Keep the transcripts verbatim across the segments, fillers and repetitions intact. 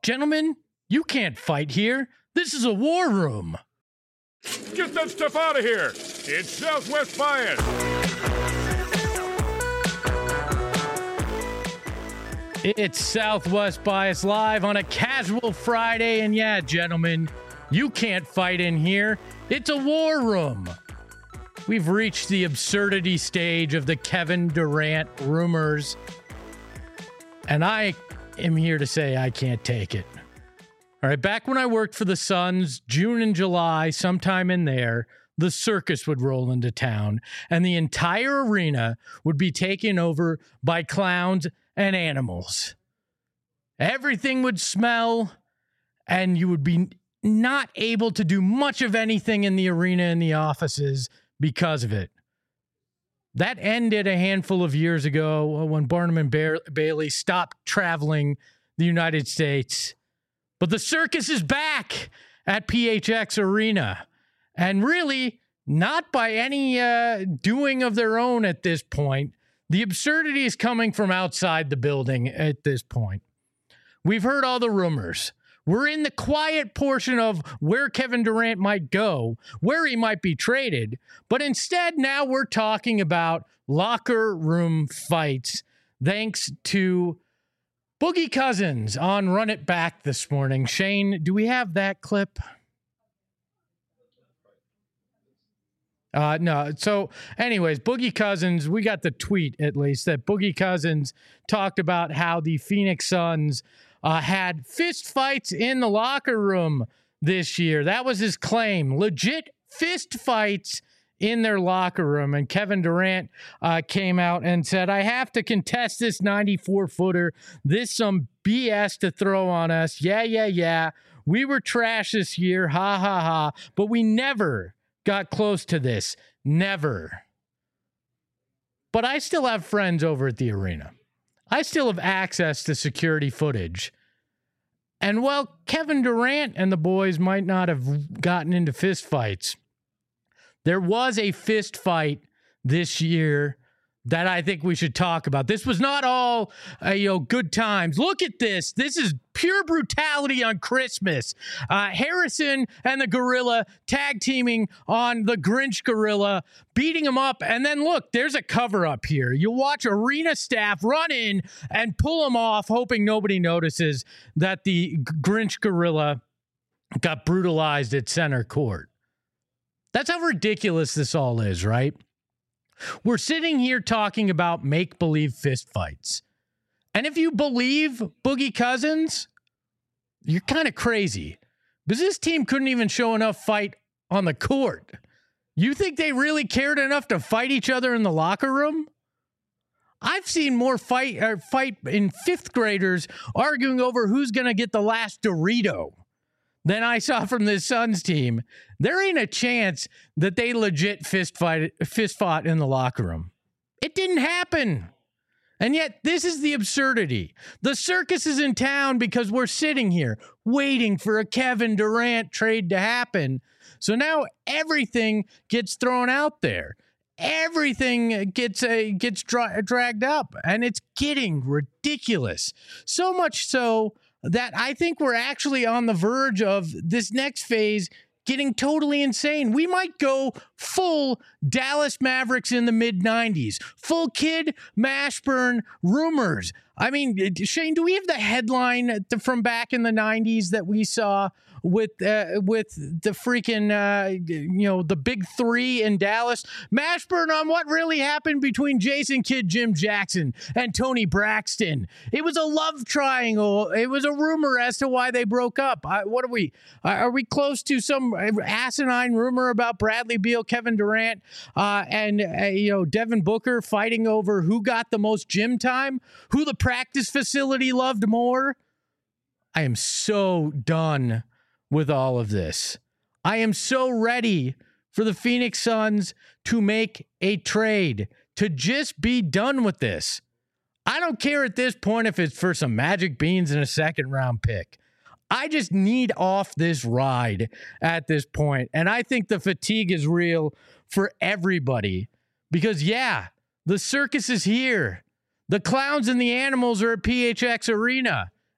Gentlemen, you can't fight here. This is a war room. Get that stuff out of here. It's Southwest Bias. It's Southwest Bias live on a casual Friday. And yeah, gentlemen, you can't fight in here. It's a war room. We've reached the absurdity stage of the Kevin Durant rumors. And I am here to say I can't take it. All right, back when I worked for the Suns, June and July, sometime in there, the circus would roll into town, and the entire arena would be taken over by clowns and animals. Everything would smell, and you would be not able to do much of anything in the arena and the offices because of it. That ended a handful of years ago when Barnum and Ba- Bailey stopped traveling the United States. But the circus is back at P H X Arena, and really not by any uh, doing of their own at this point. The absurdity is coming from outside the building at this point. We've heard all the rumors. We're in the quiet portion of where Kevin Durant might go, where he might be traded, but instead now we're talking about locker room fights thanks to Boogie Cousins on Run It Back this morning. Shane, do we have that clip? Uh, no. So anyways, Boogie Cousins, we got the tweet at least that Boogie Cousins talked about how the Phoenix Suns uh, had fist fights in the locker room this year. That was his claim. Legit fist fights in their locker room. And Kevin Durant uh, came out and said, I have to contest this ninety-four footer. This some B S to throw on us. Yeah, yeah, yeah. We were trash this year. Ha, ha, ha. But we never got close to this. Never. But I still have friends over at the arena. I still have access to security footage. And while Kevin Durant and the boys might not have gotten into fist fights, there was a fist fight this year that I think we should talk about. This was not all, uh, you know, good times. Look at this. This is pure brutality on Christmas. Uh, Harrison and the Gorilla tag teaming on the Grinch Gorilla, beating him up. And then look, there's a cover up here. You watch arena staff run in and pull him off, hoping nobody notices that the Grinch Gorilla got brutalized at center court. That's how ridiculous this all is, right? We're sitting here talking about make-believe fistfights. And if you believe Boogie Cousins, you're kind of crazy. Because this team couldn't even show enough fight on the court. You think they really cared enough to fight each other in the locker room? I've seen more fight, uh, fight in fifth graders arguing over who's going to get the last Dorito than I saw from this Suns team. There ain't a chance that they legit fist fight, fist fought in the locker room. It didn't happen. And yet this is the absurdity. The circus is in town because we're sitting here waiting for a Kevin Durant trade to happen. So now everything gets thrown out there. Everything gets uh, gets dra- dragged up, and it's getting ridiculous. So much so that I think we're actually on the verge of this next phase getting totally insane. We might go full Dallas Mavericks in the mid nineties, full Kid Mashburn rumors. I mean, Shane, do we have the headline from back in the nineties that we saw with uh, with the freaking, uh, you know, the big three in Dallas? Mashburn on what really happened between Jason Kidd, Jim Jackson, and Tony Braxton. It was a love triangle. It was a rumor as to why they broke up. I, what are we? Are we close to some asinine rumor about Bradley Beal, Kevin Durant, uh, and, uh, you know, Devin Booker fighting over who got the most gym time, who the practice facility loved more? I am so done with all of this. I am so ready for the Phoenix Suns to make a trade, to just be done with this. I don't care at this point if it's for some magic beans and a second round pick. I just need off this ride at this point. And I think the fatigue is real for everybody because, yeah, the circus is here. The clowns and the animals are at P H X Arena.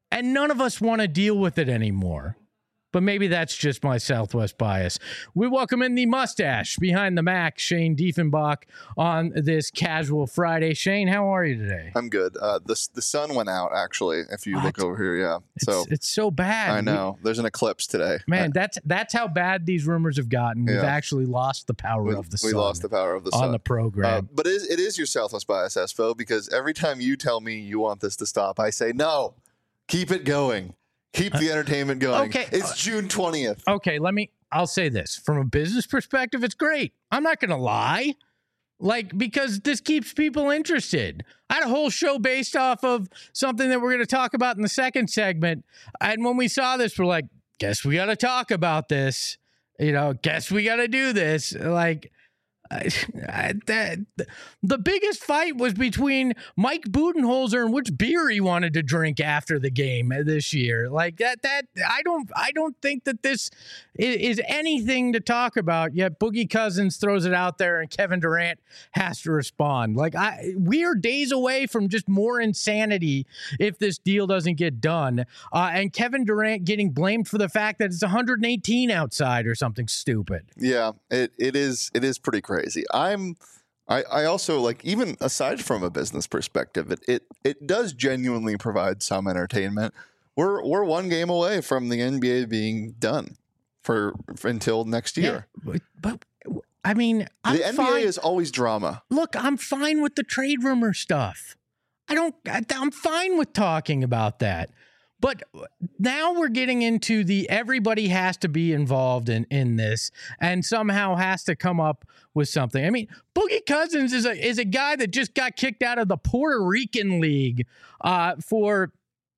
and none of us want to deal with it anymore. But maybe that's just my Southwest bias. We welcome in the mustache behind the Mac, Shane Diefenbach, on this casual Friday. Shane, how are you today? I'm good. Uh, the the sun went out, actually. If you what? look over here, yeah. It's, so it's so bad. I know. We, There's an eclipse today. Man, that's that's how bad these rumors have gotten. We've yeah. actually lost the power we, of the we sun. We lost the power of the sun on the program. Uh, but it is, it is your Southwest bias, Espo, because every time you tell me you want this to stop, I say no. Keep it going. Keep the entertainment going. Okay. It's June twentieth. Okay, let me, I'll say this. From a business perspective, it's great. I'm not going to lie. Like, because this keeps people interested. I had a whole show based off of something that we're going to talk about in the second segment. And when we saw this, we're like, guess we got to talk about this. You know, guess we got to do this. Like, I, I, that, the biggest fight was between Mike Budenholzer and which beer he wanted to drink after the game this year. Like that, that I don't, I don't think that this is, is anything to talk about. Yet Boogie Cousins throws it out there, and Kevin Durant has to respond. Like I, we are days away from just more insanity if this deal doesn't get done. Uh, and Kevin Durant getting blamed for the fact that it's one hundred eighteen outside or something stupid. Yeah, it it is. It is pretty crazy. Crazy. I'm. I, I also like, even aside from a business perspective, it, it it does genuinely provide some entertainment. We're we're one game away from the N B A being done for, for until next year. Yeah, but, but I mean, I'm the N B A fine. is always drama. Look, I'm fine with the trade rumor stuff. I don't. I'm fine with talking about that. But now we're getting into the everybody has to be involved in, in this and somehow has to come up with something. I mean, Boogie Cousins is a is a guy that just got kicked out of the Puerto Rican League uh, for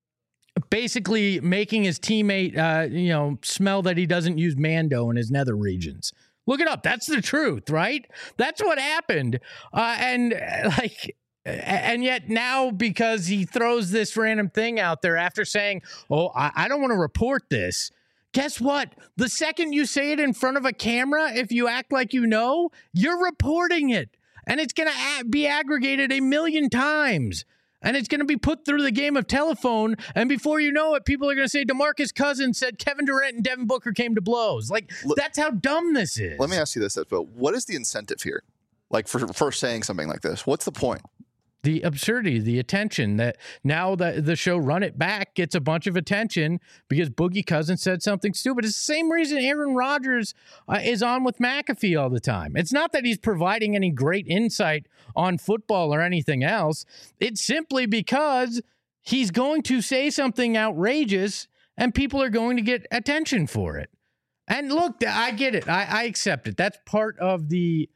basically making his teammate, uh, you know, smell that he doesn't use Mando in his nether regions. Look it up. That's the truth, right? That's what happened. Uh, and uh, like... And yet now, because he throws this random thing out there after saying, oh, I, I don't want to report this. Guess what? The second you say it in front of a camera, if you act like you know, you're reporting it. And it's going to be aggregated a million times. And it's going to be put through the game of telephone. And before you know it, people are going to say DeMarcus Cousins said Kevin Durant and Devin Booker came to blows. Like, L- that's how dumb this is. Let me ask you this, Espo. What is the incentive here? Like, for, for saying something like this? What's the point? The absurdity, the attention that now that the show Run It Back gets a bunch of attention because Boogie Cousins said something stupid. It's the same reason Aaron Rodgers uh, is on with McAfee all the time. It's not that he's providing any great insight on football or anything else. It's simply because he's going to say something outrageous and people are going to get attention for it. And look, I get it. I, I accept it. That's part of the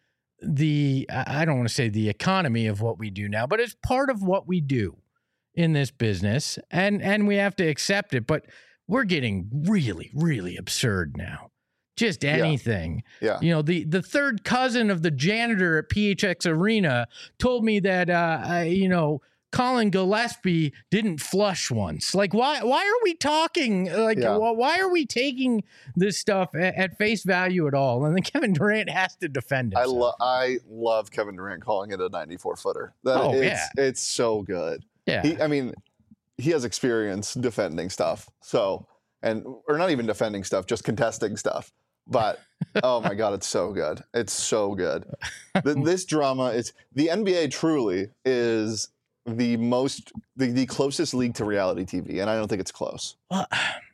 the I don't want to say the economy of what we do now, but it's part of what we do in this business, and and we have to accept it. But we're getting really, really absurd now. Just anything. Yeah. yeah. You know, the the third cousin of the janitor at P H X Arena told me that uh, I, you know, Colin Gillespie didn't flush once. Like, why why are we talking? Like, yeah. why are we taking this stuff at, at face value at all? And then Kevin Durant has to defend himself. I, lo- I love Kevin Durant calling it a ninety-four footer. That, oh, it's, yeah. It's so good. Yeah. He, I mean, he has experience defending stuff. So, and, or not even defending stuff, just contesting stuff. But, oh my God, it's so good. It's so good. The, this drama is, the N B A truly is the most, the, the closest league to reality T V, and I don't think it's close. Well,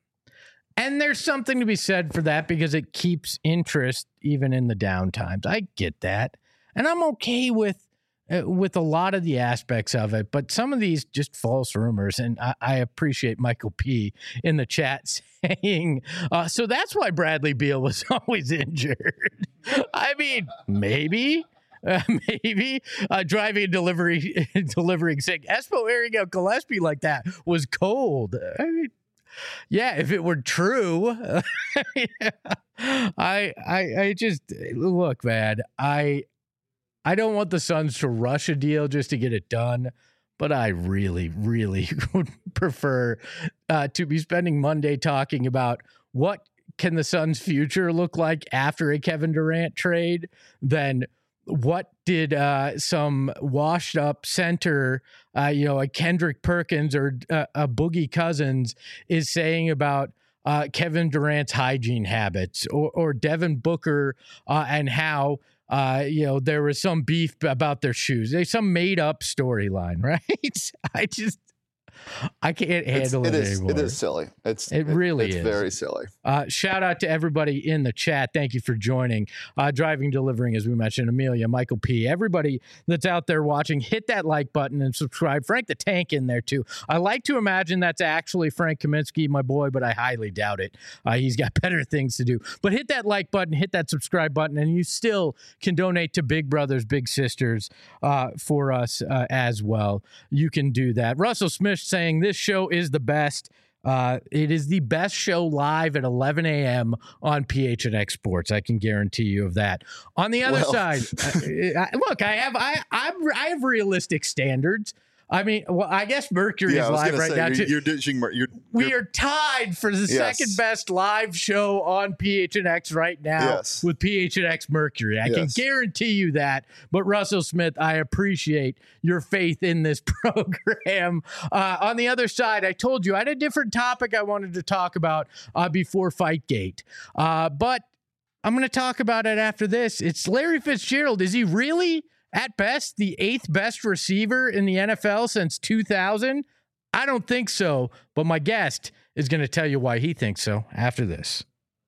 and there's something to be said for that because it keeps interest even in the down times. I get that, and I'm okay with uh, with a lot of the aspects of it, but some of these just false rumors, and I, I appreciate Michael P. in the chat saying, uh, so that's why Bradley Beal was always injured. I mean, maybe. Uh, maybe uh, driving and delivery, delivering sick. Espo airing out Gillespie like that was cold. I mean, yeah, if it were true, yeah. I, I, I just look, man. I, I don't want the Suns to rush a deal just to get it done, but I really, really would prefer uh, to be spending Monday talking about what can the Suns' future look like after a Kevin Durant trade than what did uh, some washed up center, uh, you know, a Kendrick Perkins or uh, a Boogie Cousins is saying about uh, Kevin Durant's hygiene habits, or, or Devin Booker uh, and how, uh, you know, there was some beef about their shoes. There's some made up storyline, right? I just, I can't handle it's, it, it is, anymore. It is silly. It's it really it's is very silly. Uh, shout out to everybody in the chat. Thank you for joining. Uh, driving, delivering, as we mentioned, Amelia, Michael P. Everybody that's out there watching, hit that like button and subscribe. Frank the Tank in there too. I like to imagine that's actually Frank Kaminsky, my boy, but I highly doubt it. Uh, he's got better things to do. But hit that like button, hit that subscribe button, and you still can donate to Big Brothers, Big Sisters uh, for us uh, as well. You can do that. Russell Smith saying this show is the best. Uh, it is the best show live at eleven a.m. on P H N X Sports. I can guarantee you of that. On the other well. side, uh, look, I have I I'm, I have realistic standards. I mean, well, I guess Mercury yeah, is I was live gonna right say, now you're, too. You're ditching. Mer- you're, we you're, are tied for the yes. second best live show on P H N X right now yes. with P H N X Mercury. I yes. can guarantee you that. But Russell Smith, I appreciate your faith in this program. Uh, on the other side, I told you I had a different topic I wanted to talk about uh, before Fightgate. Uh, but I'm going to talk about it after this. It's Larry Fitzgerald. Is he really, at best, the eighth best receiver in the N F L since two thousand? I don't think so, but my guest is going to tell you why he thinks so after this.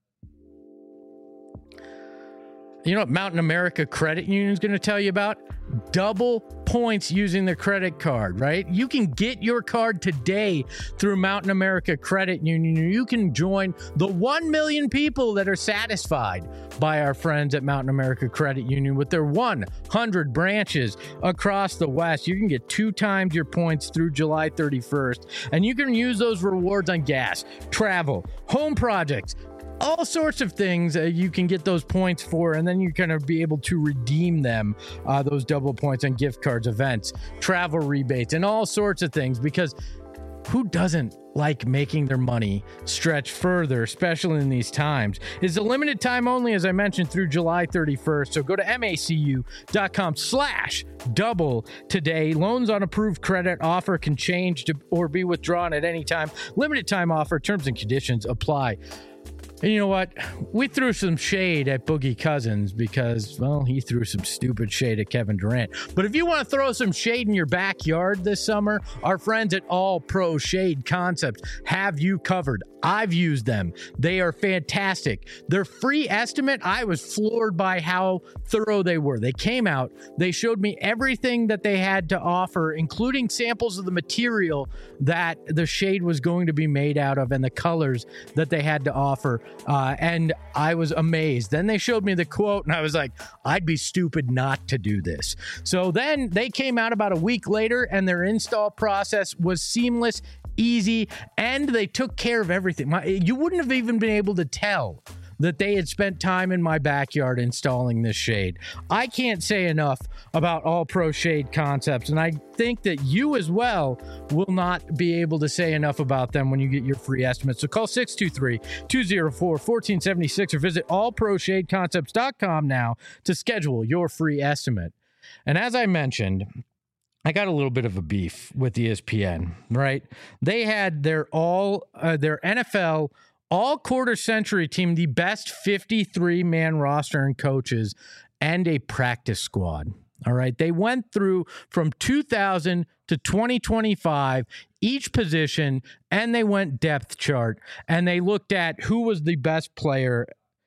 You know what Mountain America Credit Union is going to tell you about? Double points using the credit card, right? You can get your card today through Mountain America Credit Union. You can join the one million people that are satisfied by our friends at Mountain America Credit Union with their one hundred branches across the West. You can get two times your points through July thirty-first, and you can use those rewards on gas, travel, home projects, all sorts of things uh, you can get those points for, and then you're going to be able to redeem them, uh, those double points on gift cards, events, travel rebates, and all sorts of things, because who doesn't like making their money stretch further, especially in these times? It's a limited time only, as I mentioned, through July thirty-first. So go to macu.com slash double today. Loans on approved credit offer can change to, or be withdrawn at any time. Limited time offer. Terms and conditions apply. And you know what? We threw some shade at Boogie Cousins because, well, he threw some stupid shade at Kevin Durant. But if you want to throw some shade in your backyard this summer, our friends at All Pro Shade Concepts have you covered. I've used them. They are fantastic. Their free estimate, I was floored by how thorough they were. They came out, they showed me everything that they had to offer, including samples of the material that the shade was going to be made out of and the colors that they had to offer. Uh, and I was amazed. Then they showed me the quote and I was like, I'd be stupid not to do this. So then they came out about a week later and their install process was seamless, easy, and they took care of everything. My, you wouldn't have even been able to tell that they had spent time in my backyard installing this shade. I can't say enough about All Pro Shade Concepts, and I think that you as well will not be able to say enough about them when you get your free estimate. So call six two three, two oh four, one four seven six or visit all pro shade concepts dot com now to schedule your free estimate. And as I mentioned, I got a little bit of a beef with E S P N, right? They had their all uh, their N F L all quarter century team, the best fifty-three man roster and coaches, and a practice squad. All right. They went through from two thousand to twenty twenty-five, each position, and they went depth chart, and they looked at who was the best player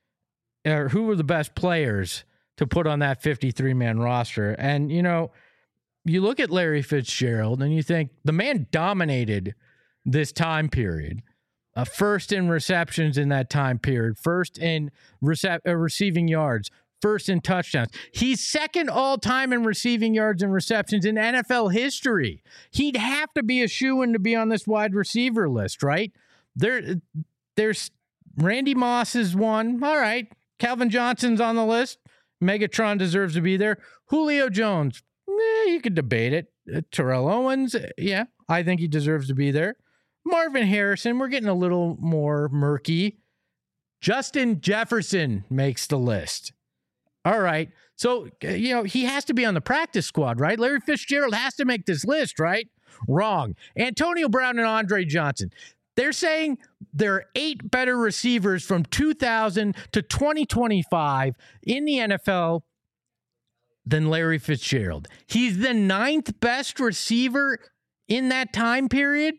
or who were the best players to put on that fifty-three man roster. And, you know, you look at Larry Fitzgerald and you think the man dominated this time period. Uh, first in receptions in that time period, first in rece- uh, receiving yards, first in touchdowns. He's second all time in receiving yards and receptions in N F L history. He'd have to be a shoo-in to be on this wide receiver list, right? There, there's Randy Moss is one. All right. Calvin Johnson's on the list. Megatron deserves to be there. Julio Jones, eh, you could debate it. Uh, Terrell Owens, yeah, I think he deserves to be there. Marvin Harrison, we're getting a little more murky. Justin Jefferson makes the list. All right. So, you know, he has to be on the practice squad, right? Larry Fitzgerald has to make this list, right? Wrong. Antonio Brown and Andre Johnson. They're saying there are eight better receivers from two thousand to twenty twenty-five in the N F L than Larry Fitzgerald. He's the ninth best receiver in that time period.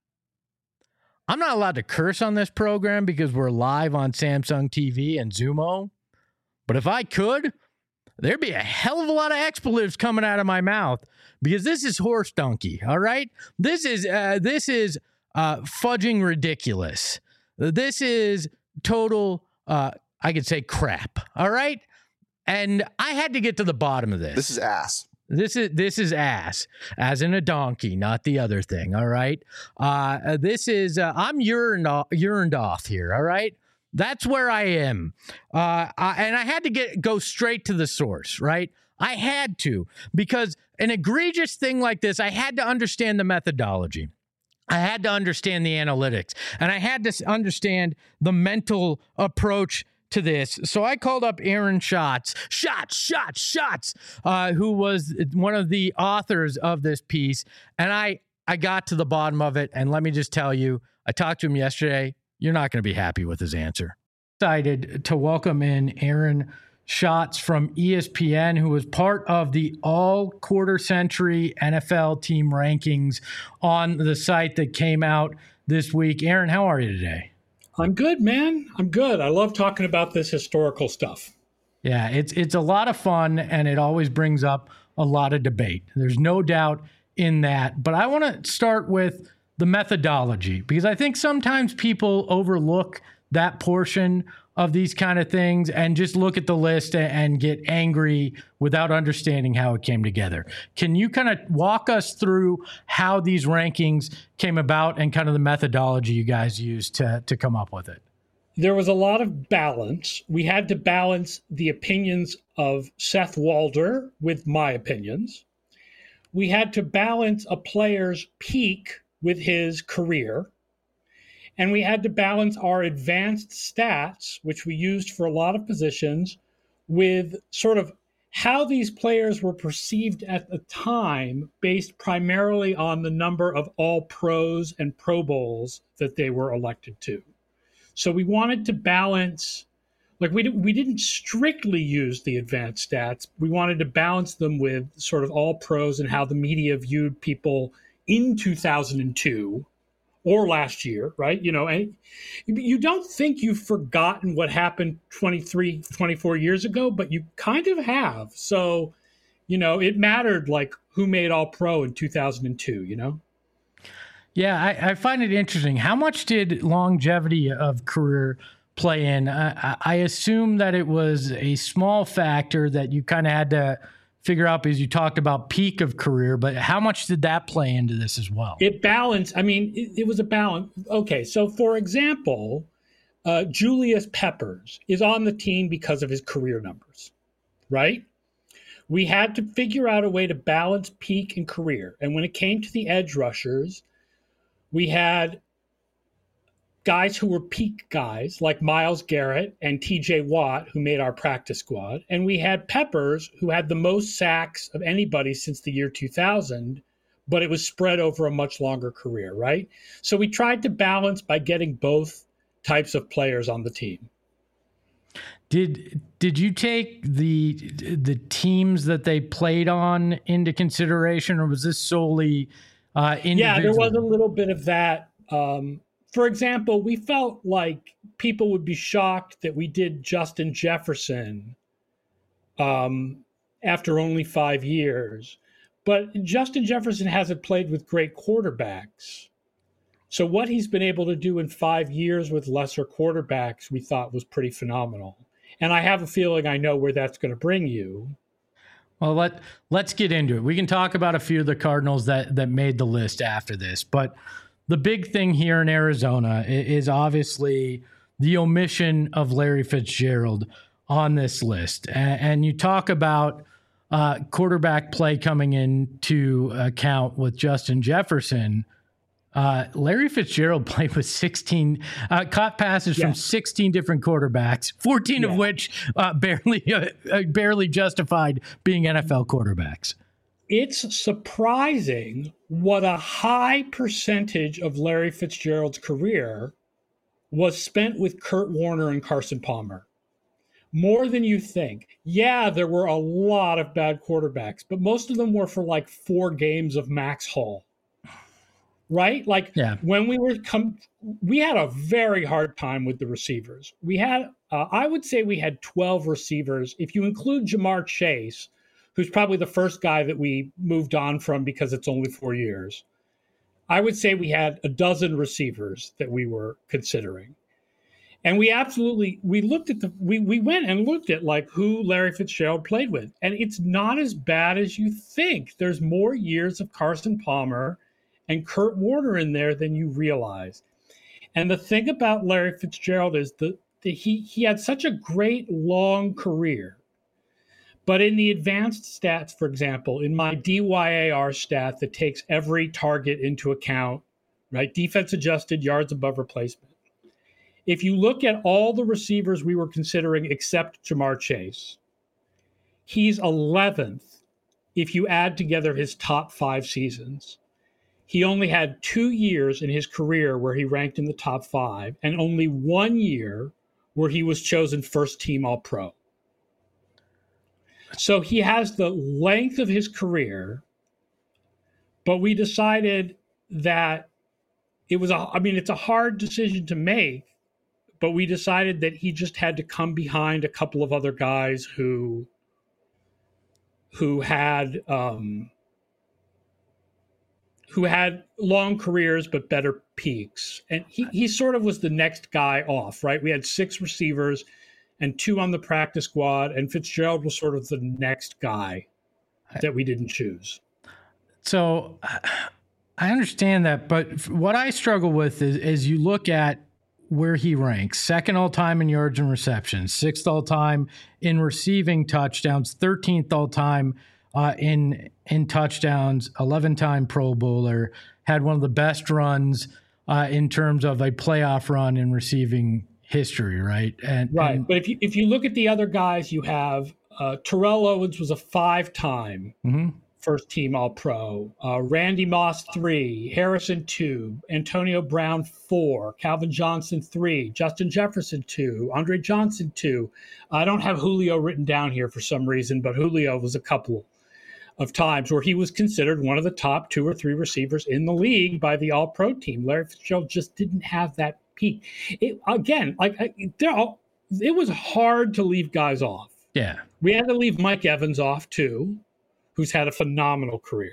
I'm not allowed to curse on this program because we're live on Samsung T V and Zumo. But if I could, there'd be a hell of a lot of expletives coming out of my mouth because this is horse donkey. All right. This is, uh, this is, Uh, fudging ridiculous. This is total, uh, I could say crap. All right. And I had to get to the bottom of this. This is ass. This is this is ass, as in a donkey, not the other thing. All right. Uh, this is uh, I'm urined off, urined off here. All right. That's where I am. Uh, I, and I had to get go straight to the source. Right. I had to, because an egregious thing like this, I had to understand the methodology. I had to understand the analytics, and I had to understand the mental approach to this. So I called up Aaron Schatz, Schatz, Schatz, Schatz, uh, who was one of the authors of this piece, and I, I got to the bottom of it, and let me just tell you, I talked to him yesterday. You're not going to be happy with his answer. Excited to welcome in Aaron Schatz from E S P N, who was part of the all quarter century N F L team rankings on the site that came out this week. Aaron, how are you today? I'm good, man. I'm good. I love talking about this historical stuff. Yeah, it's it's a lot of fun, and it always brings up a lot of debate. There's no doubt in that. But I want to start with the methodology, because I think sometimes people overlook that portion of these kind of things and just look at the list and get angry without understanding how it came together. Can you kind of walk us through how these rankings came about and kind of the methodology you guys used to, to come up with it? There was a lot of balance. We had to balance the opinions of Seth Walder with my opinions. We had to balance a player's peak with his career. And we had to balance our advanced stats, which we used for a lot of positions, with sort of how these players were perceived at the time based primarily on the number of all pros and Pro Bowls that they were elected to. So we wanted to balance, like we, we didn't strictly use the advanced stats. We wanted to balance them with sort of all pros and how the media viewed people in two thousand two. Or last year, right? You know, and you don't think you've forgotten what happened twenty-three, twenty-four years ago, but you kind of have. So, you know, it mattered like who made all pro in two thousand two, you know? Yeah, I, I find it interesting. How much did longevity of career play in? I, I assume that it was a small factor that you kind of had to figure out because you talked about peak of career, but how much did that play into this as well? It balanced. I mean, it, it was a balance. Okay, so for example, uh, Julius Peppers is on the team because of his career numbers, right? We had to figure out a way to balance peak and career. And when it came to the edge rushers, we had guys who were peak guys like Myles Garrett and T J Watt, who made our practice squad. And we had Peppers, who had the most sacks of anybody since the year two thousand, but it was spread over a much longer career, right? So we tried to balance by getting both types of players on the team. Did did you take the the teams that they played on into consideration, or was this solely uh, individual? Yeah, there was a little bit of that. Um, For example, we felt like people would be shocked that we did Justin Jefferson um, after only five years. But Justin Jefferson hasn't played with great quarterbacks. So what he's been able to do in five years with lesser quarterbacks, we thought was pretty phenomenal. And I have a feeling I know where that's going to bring you. Well, let, let's get into it. We can talk about a few of the Cardinals that, that made the list after this, but the big thing here in Arizona is obviously the omission of Larry Fitzgerald on this list. And you talk about uh, quarterback play coming into account with Justin Jefferson. Uh, Larry Fitzgerald played with sixteen, uh, caught passes Yeah. from sixteen different quarterbacks, fourteen Yeah. of which uh, barely uh, uh, barely justified being N F L quarterbacks. It's surprising what a high percentage of Larry Fitzgerald's career was spent with Kurt Warner and Carson Palmer. More than you think. Yeah, there were a lot of bad quarterbacks, but most of them were for like four games of Max Hall. Right? Like Yeah. when we were come, we had a very hard time with the receivers. We had, uh, I would say we had twelve receivers. If you include Jamar Chase, who's probably the first guy that we moved on from because it's only four years, I would say we had a dozen receivers that we were considering. And we absolutely, we looked at the, we, we went and looked at like who Larry Fitzgerald played with. And it's not as bad as you think. There's more years of Carson Palmer and Kurt Warner in there than you realize. And the thing about Larry Fitzgerald is that he, he had such a great long career. But in the advanced stats, for example, in my D Y A R stat that takes every target into account, right? Defense adjusted yards above replacement. If you look at all the receivers we were considering except Jamar Chase, he's eleventh if you add together his top five seasons. He only had two years in his career where he ranked in the top five, and only one year where he was chosen first team All-Pro. So he has the length of his career, but we decided that it was a, I mean, it's a hard decision to make, but we decided that he just had to come behind a couple of other guys who, who had, um, who had long careers but better peaks. And he, he sort of was the next guy off, right? We had six receivers and two on the practice squad, and Fitzgerald was sort of the next guy that we didn't choose. So I understand that, but what I struggle with is, is you look at where he ranks: second all-time in yards and receptions, sixth all-time in receiving touchdowns, thirteenth all-time uh, in in touchdowns, eleven-time Pro Bowler, had one of the best runs uh, in terms of a playoff run in receiving history, right? And right. and, but if you if you look at the other guys, you have uh, Terrell Owens was a five-time mm-hmm. first-team All-Pro, uh, Randy Moss three, Harrison two, Antonio Brown four, Calvin Johnson three, Justin Jefferson two, Andre Johnson two. I don't have Julio written down here for some reason, but Julio was a couple of times where he was considered one of the top two or three receivers in the league by the All-Pro team. Larry Fitzgerald just didn't have that peak. It, again, like they're all, it was hard to leave guys off. Yeah, we had to leave Mike Evans off too, who's had a phenomenal career.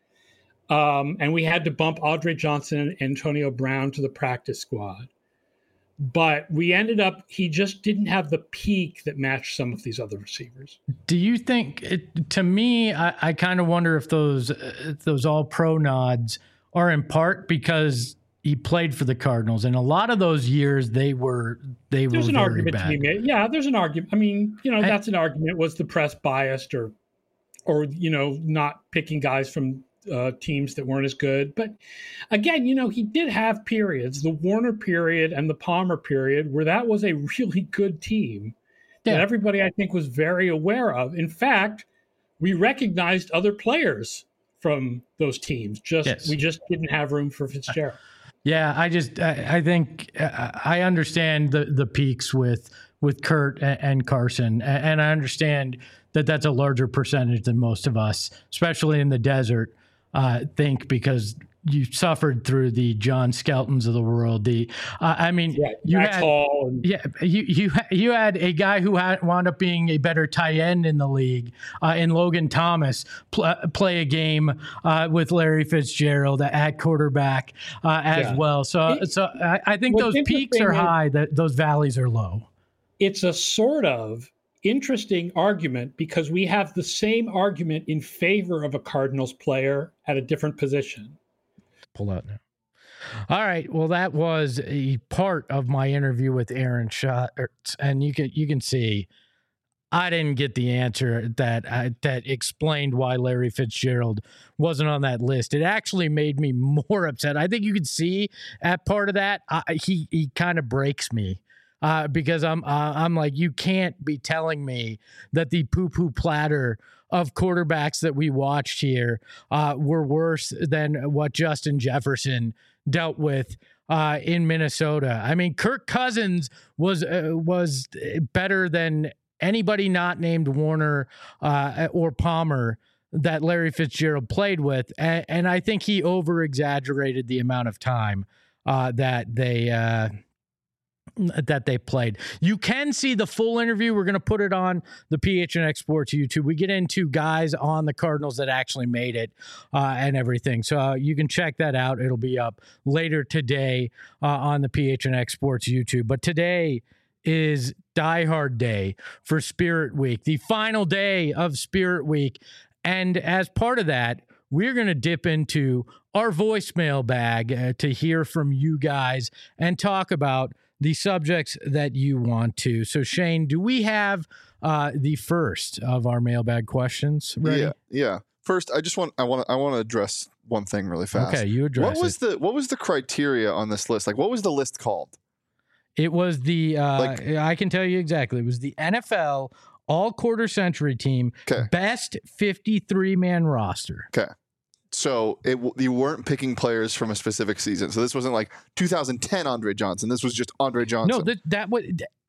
Um, and we had to bump Andre Johnson and Antonio Brown to the practice squad. But we ended up, he just didn't have the peak that matched some of these other receivers. Do you think, it, to me, I, I kind of wonder if those uh, those all-pro nods are in part because he played for the Cardinals, and a lot of those years they were they there's were an very argument bad. to be made. Yeah, there's an argument. I mean, you know, I, that's an argument. Was the press biased, or, or you know, not picking guys from uh, teams that weren't as good? But again, you know, he did have periods, the Warner period and the Palmer period, where that was a really good team yeah. that everybody, I think, was very aware of. In fact, we recognized other players from those teams. Just yes. we just didn't have room for Fitzgerald. Yeah, I just I, I think I understand the the peaks with with Kurt and, and Carson, and I understand that that's a larger percentage than most of us, especially in the desert, uh, think, because you suffered through the John Skeltons of the world. The uh, I mean, yeah, you Max had Hall and- yeah you you you had a guy who had wound up being a better tight end in the league, uh, in Logan Thomas, pl- play a game uh, with Larry Fitzgerald at quarterback uh, as Yeah. well. So It- so I, I think what's those peaks are interesting is- high, that those valleys are low. It's a sort of interesting argument because we have the same argument in favor of a Cardinals player at a different position. Pull out now. All right. Well, that was a part of my interview with Aaron Schatz, and you can you can see I didn't get the answer that uh, that explained why Larry Fitzgerald wasn't on that list. It actually made me more upset. I think you could see at part of that, uh, he he kind of breaks me. Uh, because I'm uh, I'm like, you can't be telling me that the poo-poo platter of quarterbacks that we watched here uh, were worse than what Justin Jefferson dealt with uh, in Minnesota. I mean, Kirk Cousins was uh, was better than anybody not named Warner uh, or Palmer that Larry Fitzgerald played with, and, and I think he over-exaggerated the amount of time uh, that they. Uh, that they played. You can see the full interview. We're going to put it on the P H N X Sports YouTube. We get into guys on the Cardinals that actually made it uh, and everything. So uh, you can check that out. It'll be up later today uh, on the P H N X Sports YouTube. But today is Die Hard Day for Spirit Week, the final day of Spirit Week. And as part of that, we're going to dip into our voicemail bag uh, to hear from you guys and talk about the subjects that you want to. So, Shane, do we have uh, the first of our mailbag questions ready? Yeah, yeah. First, I just want I want I want to address one thing really fast. Okay, you address What was it. the what was the criteria on this list? Like, what was the list called? It was the uh, Like- I can tell you exactly. It was the N F L All Quarter Century Team 'Kay. Best fifty-three man roster. Okay. So it w- you weren't picking players from a specific season. So this wasn't like two thousand ten Andre Johnson. This was just Andre Johnson. No, that that was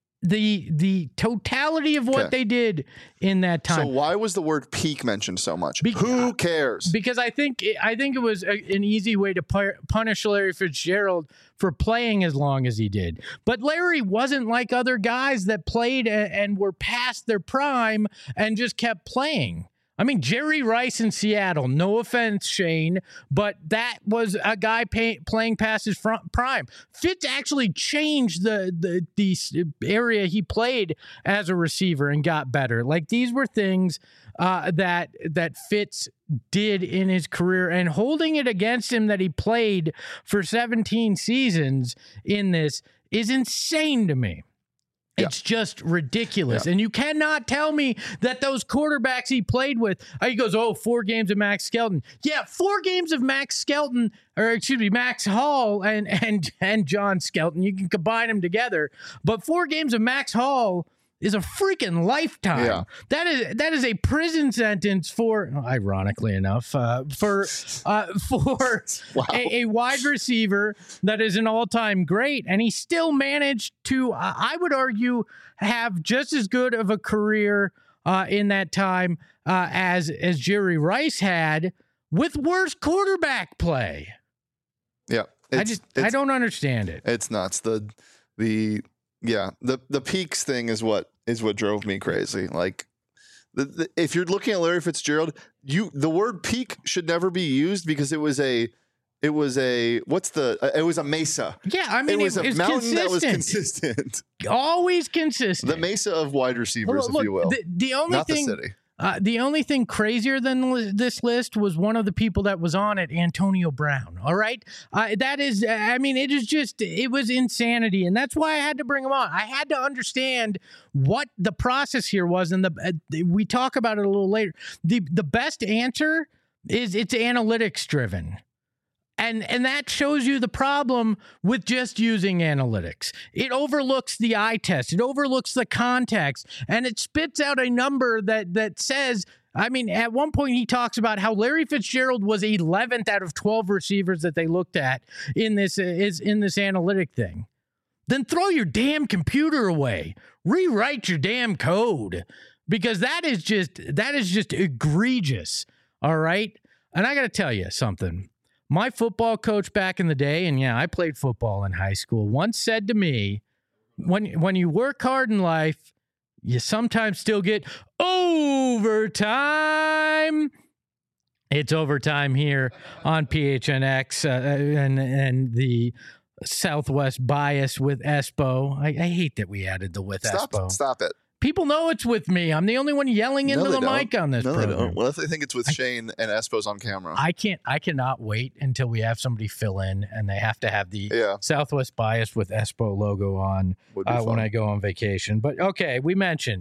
the the totality of what Okay. they did in that So time. why was the word peak mentioned so much? Be- Who cares? Because I think I think it was a, an easy way to pu- punish Larry Fitzgerald for playing as long as he did. But Larry wasn't like other guys that played a, and were past their prime and just kept playing. I mean, Jerry Rice in Seattle, no offense, Shane, but that was a guy pay, playing past his front prime. Fitz actually changed the, the the area he played as a receiver and got better. Like, these were things uh, that that Fitz did in his career, and holding it against him that he played for seventeen seasons in this is insane to me. It's just ridiculous. Yeah. And you cannot tell me that those quarterbacks he played with, uh, he goes, oh, four games of Max Skelton. Yeah, four games of Max Skelton, or excuse me, Max Hall and and and John Skelton. You can combine them together. But four games of Max Hall is a freaking lifetime. Yeah. That is that is a prison sentence for, ironically enough, uh, for uh, for Wow. a, a wide receiver that is an all-time great, and he still managed to, uh, I would argue, have just as good of a career uh, in that time uh, as as Jerry Rice had, with worse quarterback play. Yeah. I It's, just it's, I don't understand it. It's nuts. The the yeah the the peaks thing is what is what drove me crazy. Like, the, the, if you're looking at Larry Fitzgerald, you the word peak should never be used because it was a it was a what's the uh, it was a mesa. Yeah, I mean, It was it, a it's mountain that was consistent. consistent. Always consistent. The mesa of wide receivers, Look, if you will, The, the only not thing, the city. Uh, the only thing crazier than li- this list was one of the people that was on it, Antonio Brown. All right. Uh, that is, I mean, it is just, it was insanity. And that's why I had to bring him on. I had to understand what the process here was. And the, uh, we talk about it a little later. The, the best answer is it's analytics driven. And and that shows you the problem with just using analytics. It overlooks the eye test. It overlooks the context. And it spits out a number that that says, I mean, at one point he talks about how Larry Fitzgerald was eleventh out of twelve receivers that they looked at in this is in this analytic thing. Then throw your damn computer away. Rewrite your damn code. Because that is just that is just egregious. All right? And I got to tell you something. My football coach back in the day, and yeah, I played football in high school, once said to me, when when you work hard in life, you sometimes still get overtime. It's overtime here on P H N X uh, and, and the Southwest bias with Espo. I, I hate that we added the with Stop, Espo. stop it. People know it's with me. I'm the only one yelling into No, the they don't. mic on this No, they program. don't. What if they think it's with Shane and Espo's on camera? I can't. I cannot wait until we have somebody fill in, and they have to have the Yeah. Southwest bias with Espo logo on Would be uh, when fun. I go on vacation. But okay, we mentioned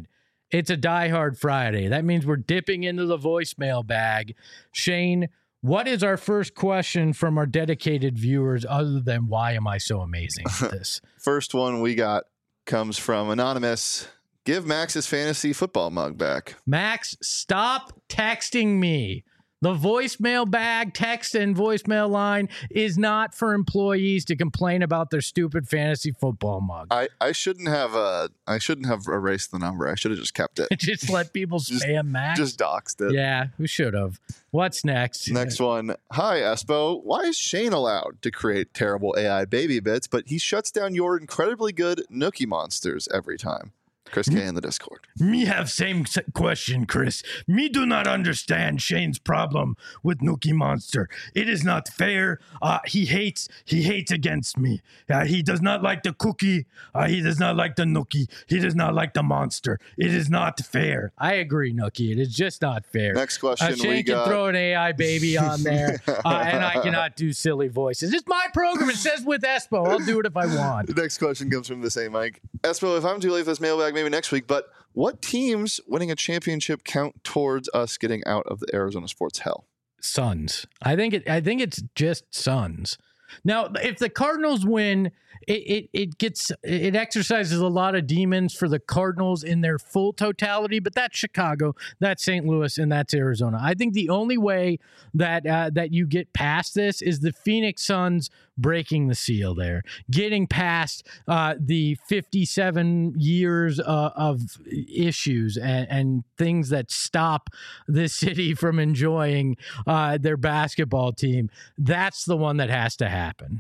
It's a Die Hard Friday. That means we're dipping into the voicemail bag. Shane, what is our first question from our dedicated viewers other than why am I so amazing at this? First one we got comes from Anonymous. Give Max his fantasy football mug back. Max, stop texting me. The voicemail bag, text and voicemail line is not for employees to complain about their stupid fantasy football mug. I, I shouldn't have uh I shouldn't have erased the number. I should have just kept it. Just let people Just- spam Max. Just doxed it. Yeah, we should have. What's next? Next one. Hi, Espo. Why is Shane allowed to create terrible A I baby bits, but he shuts down your incredibly good Nookie monsters every time? Chris K in the Discord. Me have same s- question, Chris. Me do not understand Shane's problem with Nookie Monster. It is not fair. Uh, he hates. He hates against me. Uh, he does not like the cookie. Uh, he does not like the Nookie. He does not like the monster. It is not fair. I agree, Nookie. It is just not fair. Next question Uh, Shane we can got. throw an A I baby on there, uh, and I cannot do silly voices. It's my program. It says with Espo. I'll do it if I want. The next question comes from the same Mike. Espo, if I'm too late for this mailbag, maybe next week, but what teams winning a championship count towards us getting out of the Arizona sports hell? Suns. I think it. I think it's just Suns. Now, if the Cardinals win, it, it it gets it exercises a lot of demons for the Cardinals in their full totality. But that's Chicago, that's Saint Louis, and that's Arizona. I think the only way that uh, that you get past this is the Phoenix Suns breaking the seal there, getting past uh, the fifty-seven years uh, of issues and, and things that stop this city from enjoying uh, their basketball team. That's the one that has to happen.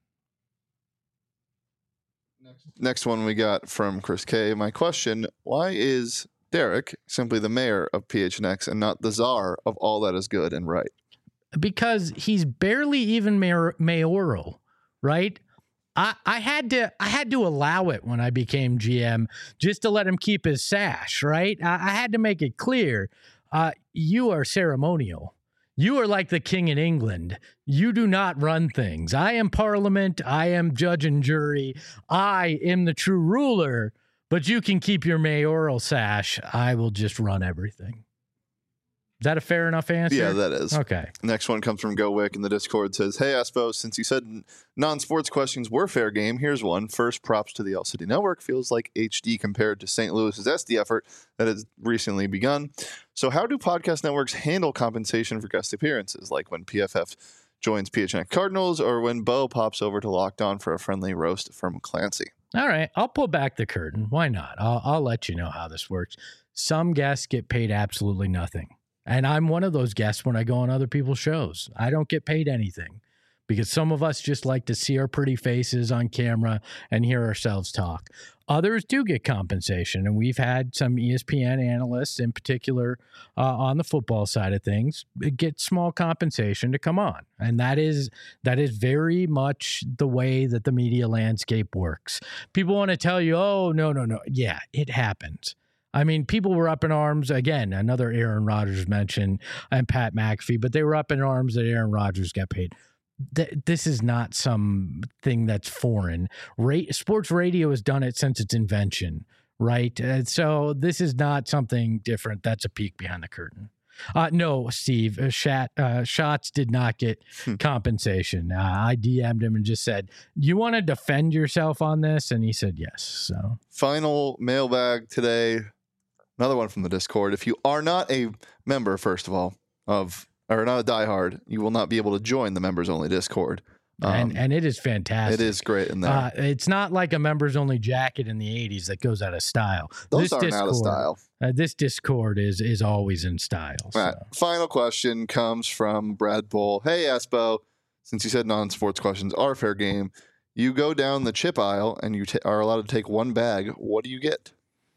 Next one we got from Chris K. My question, why is Derek simply the mayor of P H N X and not the czar of all that is good and right? Because he's barely even mayor, mayoral, right? I, I had to I had to allow it when I became G M just to let him keep his sash, right? I, I had to make it clear. Uh, you are ceremonial. You are like the king in England. You do not run things. I am parliament. I am judge and jury. I am the true ruler, but you can keep your mayoral sash. I will just run everything. Is that a fair enough answer? Yeah, that is. Okay. Next one comes from GoWick in the Discord. Says, hey, Espo, since you said non-sports questions were fair game, here's one. First, props to the L City Network. Feels like H D compared to Saint Louis's S D effort that has recently begun. So how do podcast networks handle compensation for guest appearances, like when P F F joins P H N X Cardinals or when Bo pops over to Locked On for a friendly roast from Clancy? All right. I'll pull back the curtain. Why not? I'll, I'll let you know how this works. Some guests get paid absolutely nothing. And I'm one of those guests when I go on other people's shows. I don't get paid anything because some of us just like to see our pretty faces on camera and hear ourselves talk. Others do get compensation, and we've had some E S P N analysts in particular uh, on the football side of things get small compensation to come on. And that is that is very much the way that the media landscape works. People want to tell you, oh, no, no, no. Yeah, it happens. I mean, people were up in arms, again, another Aaron Rodgers mention, and Pat McAfee, but they were up in arms that Aaron Rodgers got paid. Th- this is not something that's foreign. Ra- sports radio has done it since its invention, right? Uh, so this is not something different. That's a peek behind the curtain. Uh, no, Steve, uh, Shat, uh, Shots did not get compensation. Uh, I D M'd him and just said, you want to defend yourself on this? And he said yes. So Final mailbag today. Another one from the Discord. If you are not a member, first of all, of or not a diehard, you will not be able to join the members only Discord. Um, and and it is fantastic. It is great in there. Uh, it's not like a members only jacket in the eighties that goes out of style. Those this aren't Discord, out of style. Uh, this Discord is is always in style. All So. right. Final question comes from Brad Bull. Hey, Espo, since you said non-sports questions are fair game, you go down the chip aisle and you t- are allowed to take one bag. What do you get?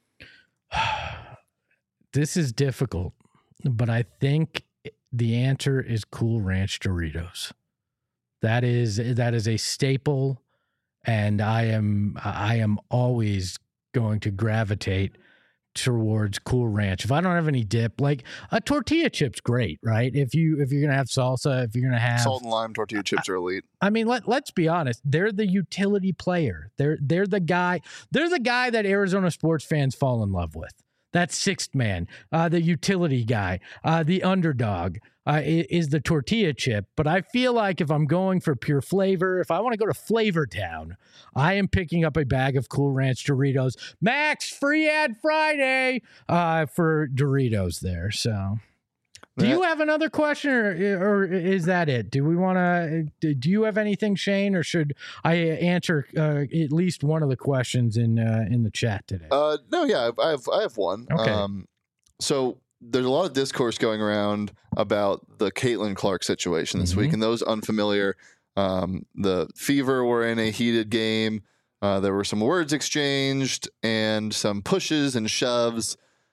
This is difficult, but I think the answer is Cool Ranch Doritos. That is that is a staple, and I am I am always going to gravitate towards Cool Ranch. If I don't have any dip, like a tortilla chip's great, right? If you if you're gonna have salsa, if you're gonna have Salt and lime tortilla chips are elite. I mean, let let's be honest. They're the utility player. They're they're the guy. They're the guy that Arizona sports fans fall in love with. that sixth man, uh, the utility guy, uh, the underdog uh, is the tortilla chip. But I feel like if I'm going for pure flavor, if I want to go to Flavor Town, I am picking up a bag of Cool Ranch Doritos. Max, free ad Friday uh, for Doritos there. So... Do you have another question, or, or is that it? Do we want to? Do you have anything, Shane, or should I answer uh, at least one of the questions in uh, in the chat today? Uh, no, yeah, I have I have one. Okay. Um, so there's a lot of discourse going around about the Caitlin Clark situation this Mm-hmm. week, and those unfamiliar, um, the Fever were in a heated game. Uh, there were some words exchanged and some pushes and shoves.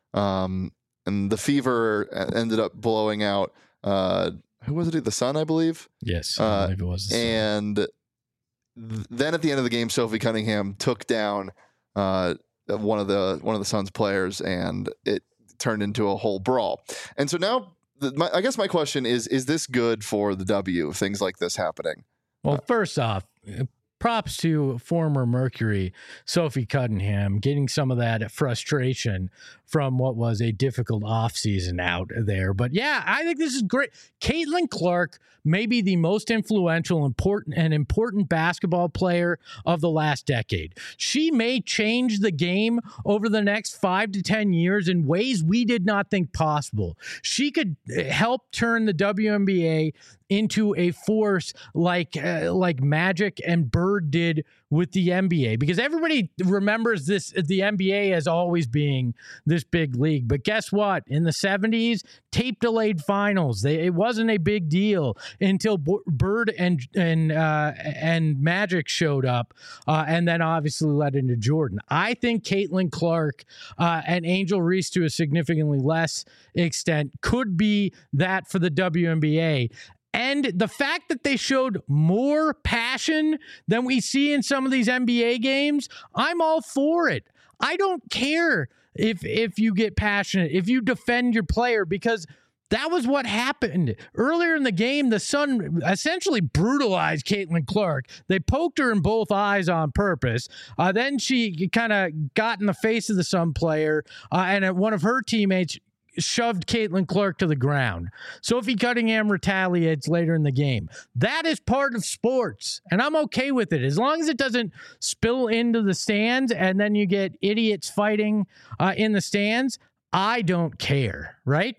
Um, And the Fever ended up blowing out, uh, who was it? The Sun, I believe. Yes, I Uh, believe it was. The and th- then at the end of the game, Sophie Cunningham took down uh, one of the one of the Suns players, and it turned into a whole brawl. And so now, the, my, I guess my question is: Is this good for the W? Things like this happening? Well, first off, props to former Mercury Sophie Cunningham getting some of that frustration from what was a difficult offseason out there. But yeah, I think this is great. Caitlin Clark may be the most influential, important, and important basketball player of the last decade. She may change the game over the next five to ten years in ways we did not think possible. She could help turn the W N B A into a force like uh, like Magic and Bird did with the N B A, because everybody remembers this the N B A as always being this big league. But guess what? In the seventies, tape delayed finals. They, it wasn't a big deal until B- Bird and and uh, and Magic showed up, uh, and then obviously led into Jordan. I think Caitlin Clark uh, and Angel Reese to a significantly less extent could be that for the W N B A. And the fact that they showed more passion than we see in some of these N B A games, I'm all for it. I don't care if if you get passionate, if you defend your player, because that was what happened. Earlier in the game, the Sun essentially brutalized Caitlin Clark. They poked her in both eyes on purpose. Uh, then she kind of got in the face of the Sun player, uh, and one of her teammates shoved Caitlin Clark to the ground. Sophie Cunningham retaliates later in the game. That is part of sports, and I'm okay with it as long as it doesn't spill into the stands and then you get idiots fighting uh, in the stands. I don't care, right?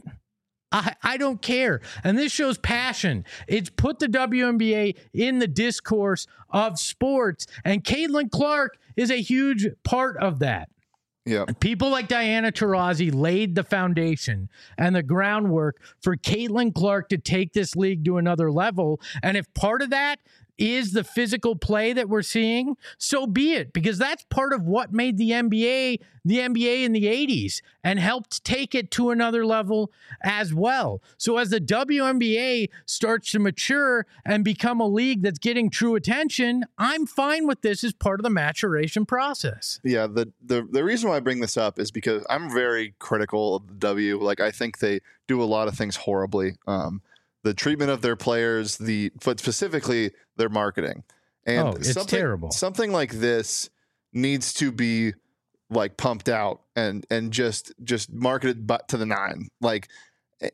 I, I don't care. And this shows passion. It's put the W N B A in the discourse of sports, and Caitlin Clark is a huge part of that. Yeah. People like Diana Taurasi laid the foundation and the groundwork for Caitlin Clark to take this league to another level. And if part of that is the physical play that we're seeing, so be it, because that's part of what made the N B A the N B A in the eighties and helped take it to another level as well. So as the W N B A starts to mature and become a league that's getting true attention, I'm fine with this as part of the maturation process. Yeah, the, the the reason why I bring this up is because I'm very critical of the W. Like, I think they do a lot of things horribly. Um, the treatment of their players, the but specifically their marketing. And Oh, it's something, terrible. Something like this needs to be like pumped out and and just just marketed but to the nine. Like, eh,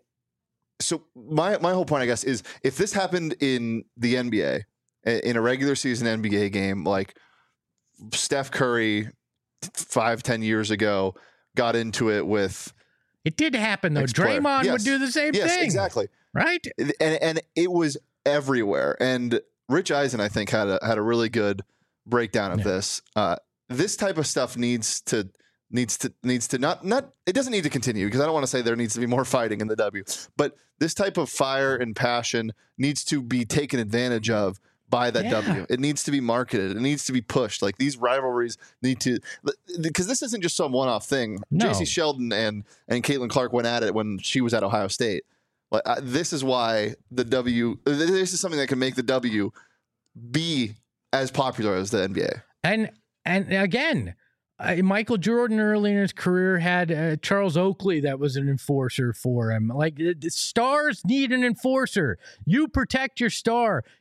so my my whole point, I guess, is if this happened in the N B A, in a regular season N B A game, like Steph Curry five, ten years ago got into it with. It did happen, though. Ex-player. Draymond Yes. would do the same Yes, thing. exactly. Right? And and it was everywhere. And Rich Eisen, I think, had a had a really good breakdown of Yeah. this. Uh, this type of stuff needs to needs to needs to not not it doesn't need to continue, because I don't want to say there needs to be more fighting in the W, but this type of fire and passion needs to be taken advantage of by that Yeah. W. It needs to be marketed. It needs to be pushed. Like, these rivalries need to, because this isn't just some one-off thing. No. J C Sheldon and and Caitlin Clark went at it when she was at Ohio State. Like, uh, this is why the W. This is something that can make the W be as popular as the N B A. And and again, uh, Michael Jordan early in his career had uh, Charles Oakley that was an enforcer for him. Like, the, the stars need an enforcer. You protect your star.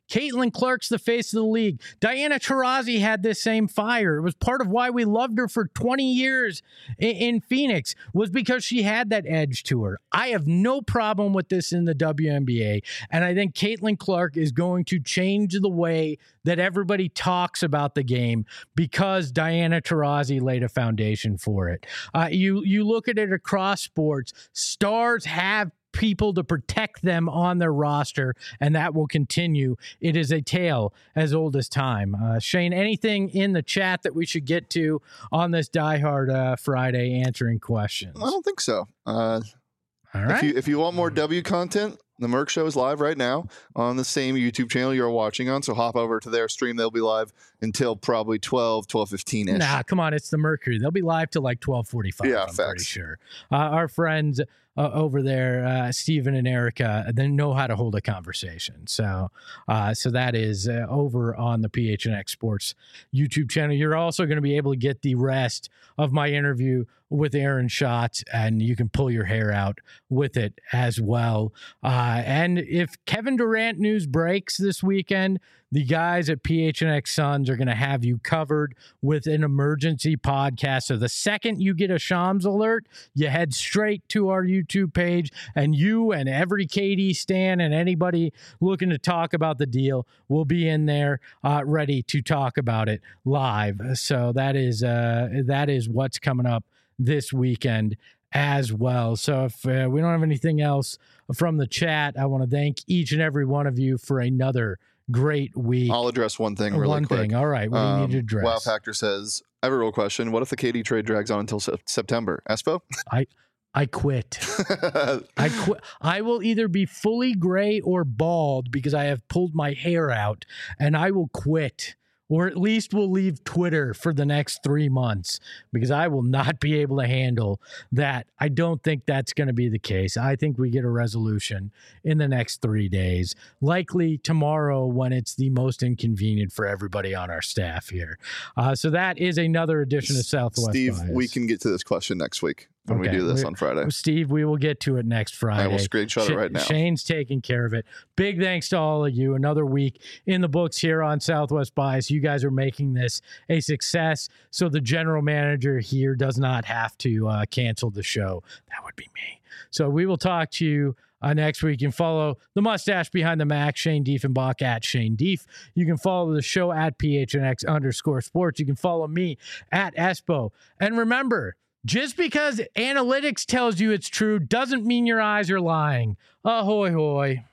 Caitlin Clark's the face of the league. Diana Taurasi had this same fire. It was part of why we loved her for twenty years in, in Phoenix, was because she had that edge to her. I have no problem with this in the W N B A, and I think Caitlin Clark is going to change the way that everybody talks about the game because Diana Taurasi laid a foundation for it. Uh, you you look at it across sports, stars have people to protect them on their roster, and that will continue. It is a tale as old as time. Uh, Shane, anything in the chat that we should get to on this Die Hard uh, Friday answering questions? I don't think so. Uh, All right. If you, if you want more W content, the Merc Show is live right now on the same YouTube channel you're watching on. So hop over to their stream. They'll be live until probably twelve, twelve fifteen-ish. Nah, come on. It's the Mercury. They'll be live till like twelve forty-five. Yeah, I'm facts. pretty sure. Uh, our friends uh, over there, uh, Steven and Erica, they know how to hold a conversation. So uh, so that is uh, over on the P H N X Sports YouTube channel. You're also going to be able to get the rest of my interview with Aaron Schatz, and you can pull your hair out with it as well. Uh, and if Kevin Durant news breaks this weekend, the guys at P H N X Suns are going to have you covered with an emergency podcast. So the second you get a Shams alert, you head straight to our YouTube page, and you and every K D stan and anybody looking to talk about the deal will be in there uh, ready to talk about it live. So that is uh, that is what's coming up this weekend as well. So if uh, we don't have anything else from the chat, I want to thank each and every one of you for another great week. I'll address one thing really one quick. thing. All right. What do you Um, need to address? Wow Factor says, I have a real question. What if the K D trade drags on until se- September? Espo? I I quit. I quit. I will either be fully gray or bald because I have pulled my hair out, and I will quit. Or at least we'll leave Twitter for the next three months because I will not be able to handle that. I don't think that's going to be the case. I think we get a resolution in the next three days, likely tomorrow when it's the most inconvenient for everybody on our staff here. Uh, so that is another edition of Southwest Steve, Bias. we can get to this question next week when Okay. we do this We- on Friday. Steve, we will get to it next Friday. I will screenshot Sh- it right now. Shane's taking care of it. Big thanks to all of you. Another week in the books here on Southwest Bias. You guys are making this a success, so the general manager here does not have to uh, cancel the show. That would be me. So we will talk to you uh, next week. You can follow the mustache behind the Mac, Shane Diefenbach at Shane Dief. You can follow the show at P H N X underscore sports. You can follow me at Espo. And remember, just because analytics tells you it's true doesn't mean your eyes are lying. Ahoy hoy.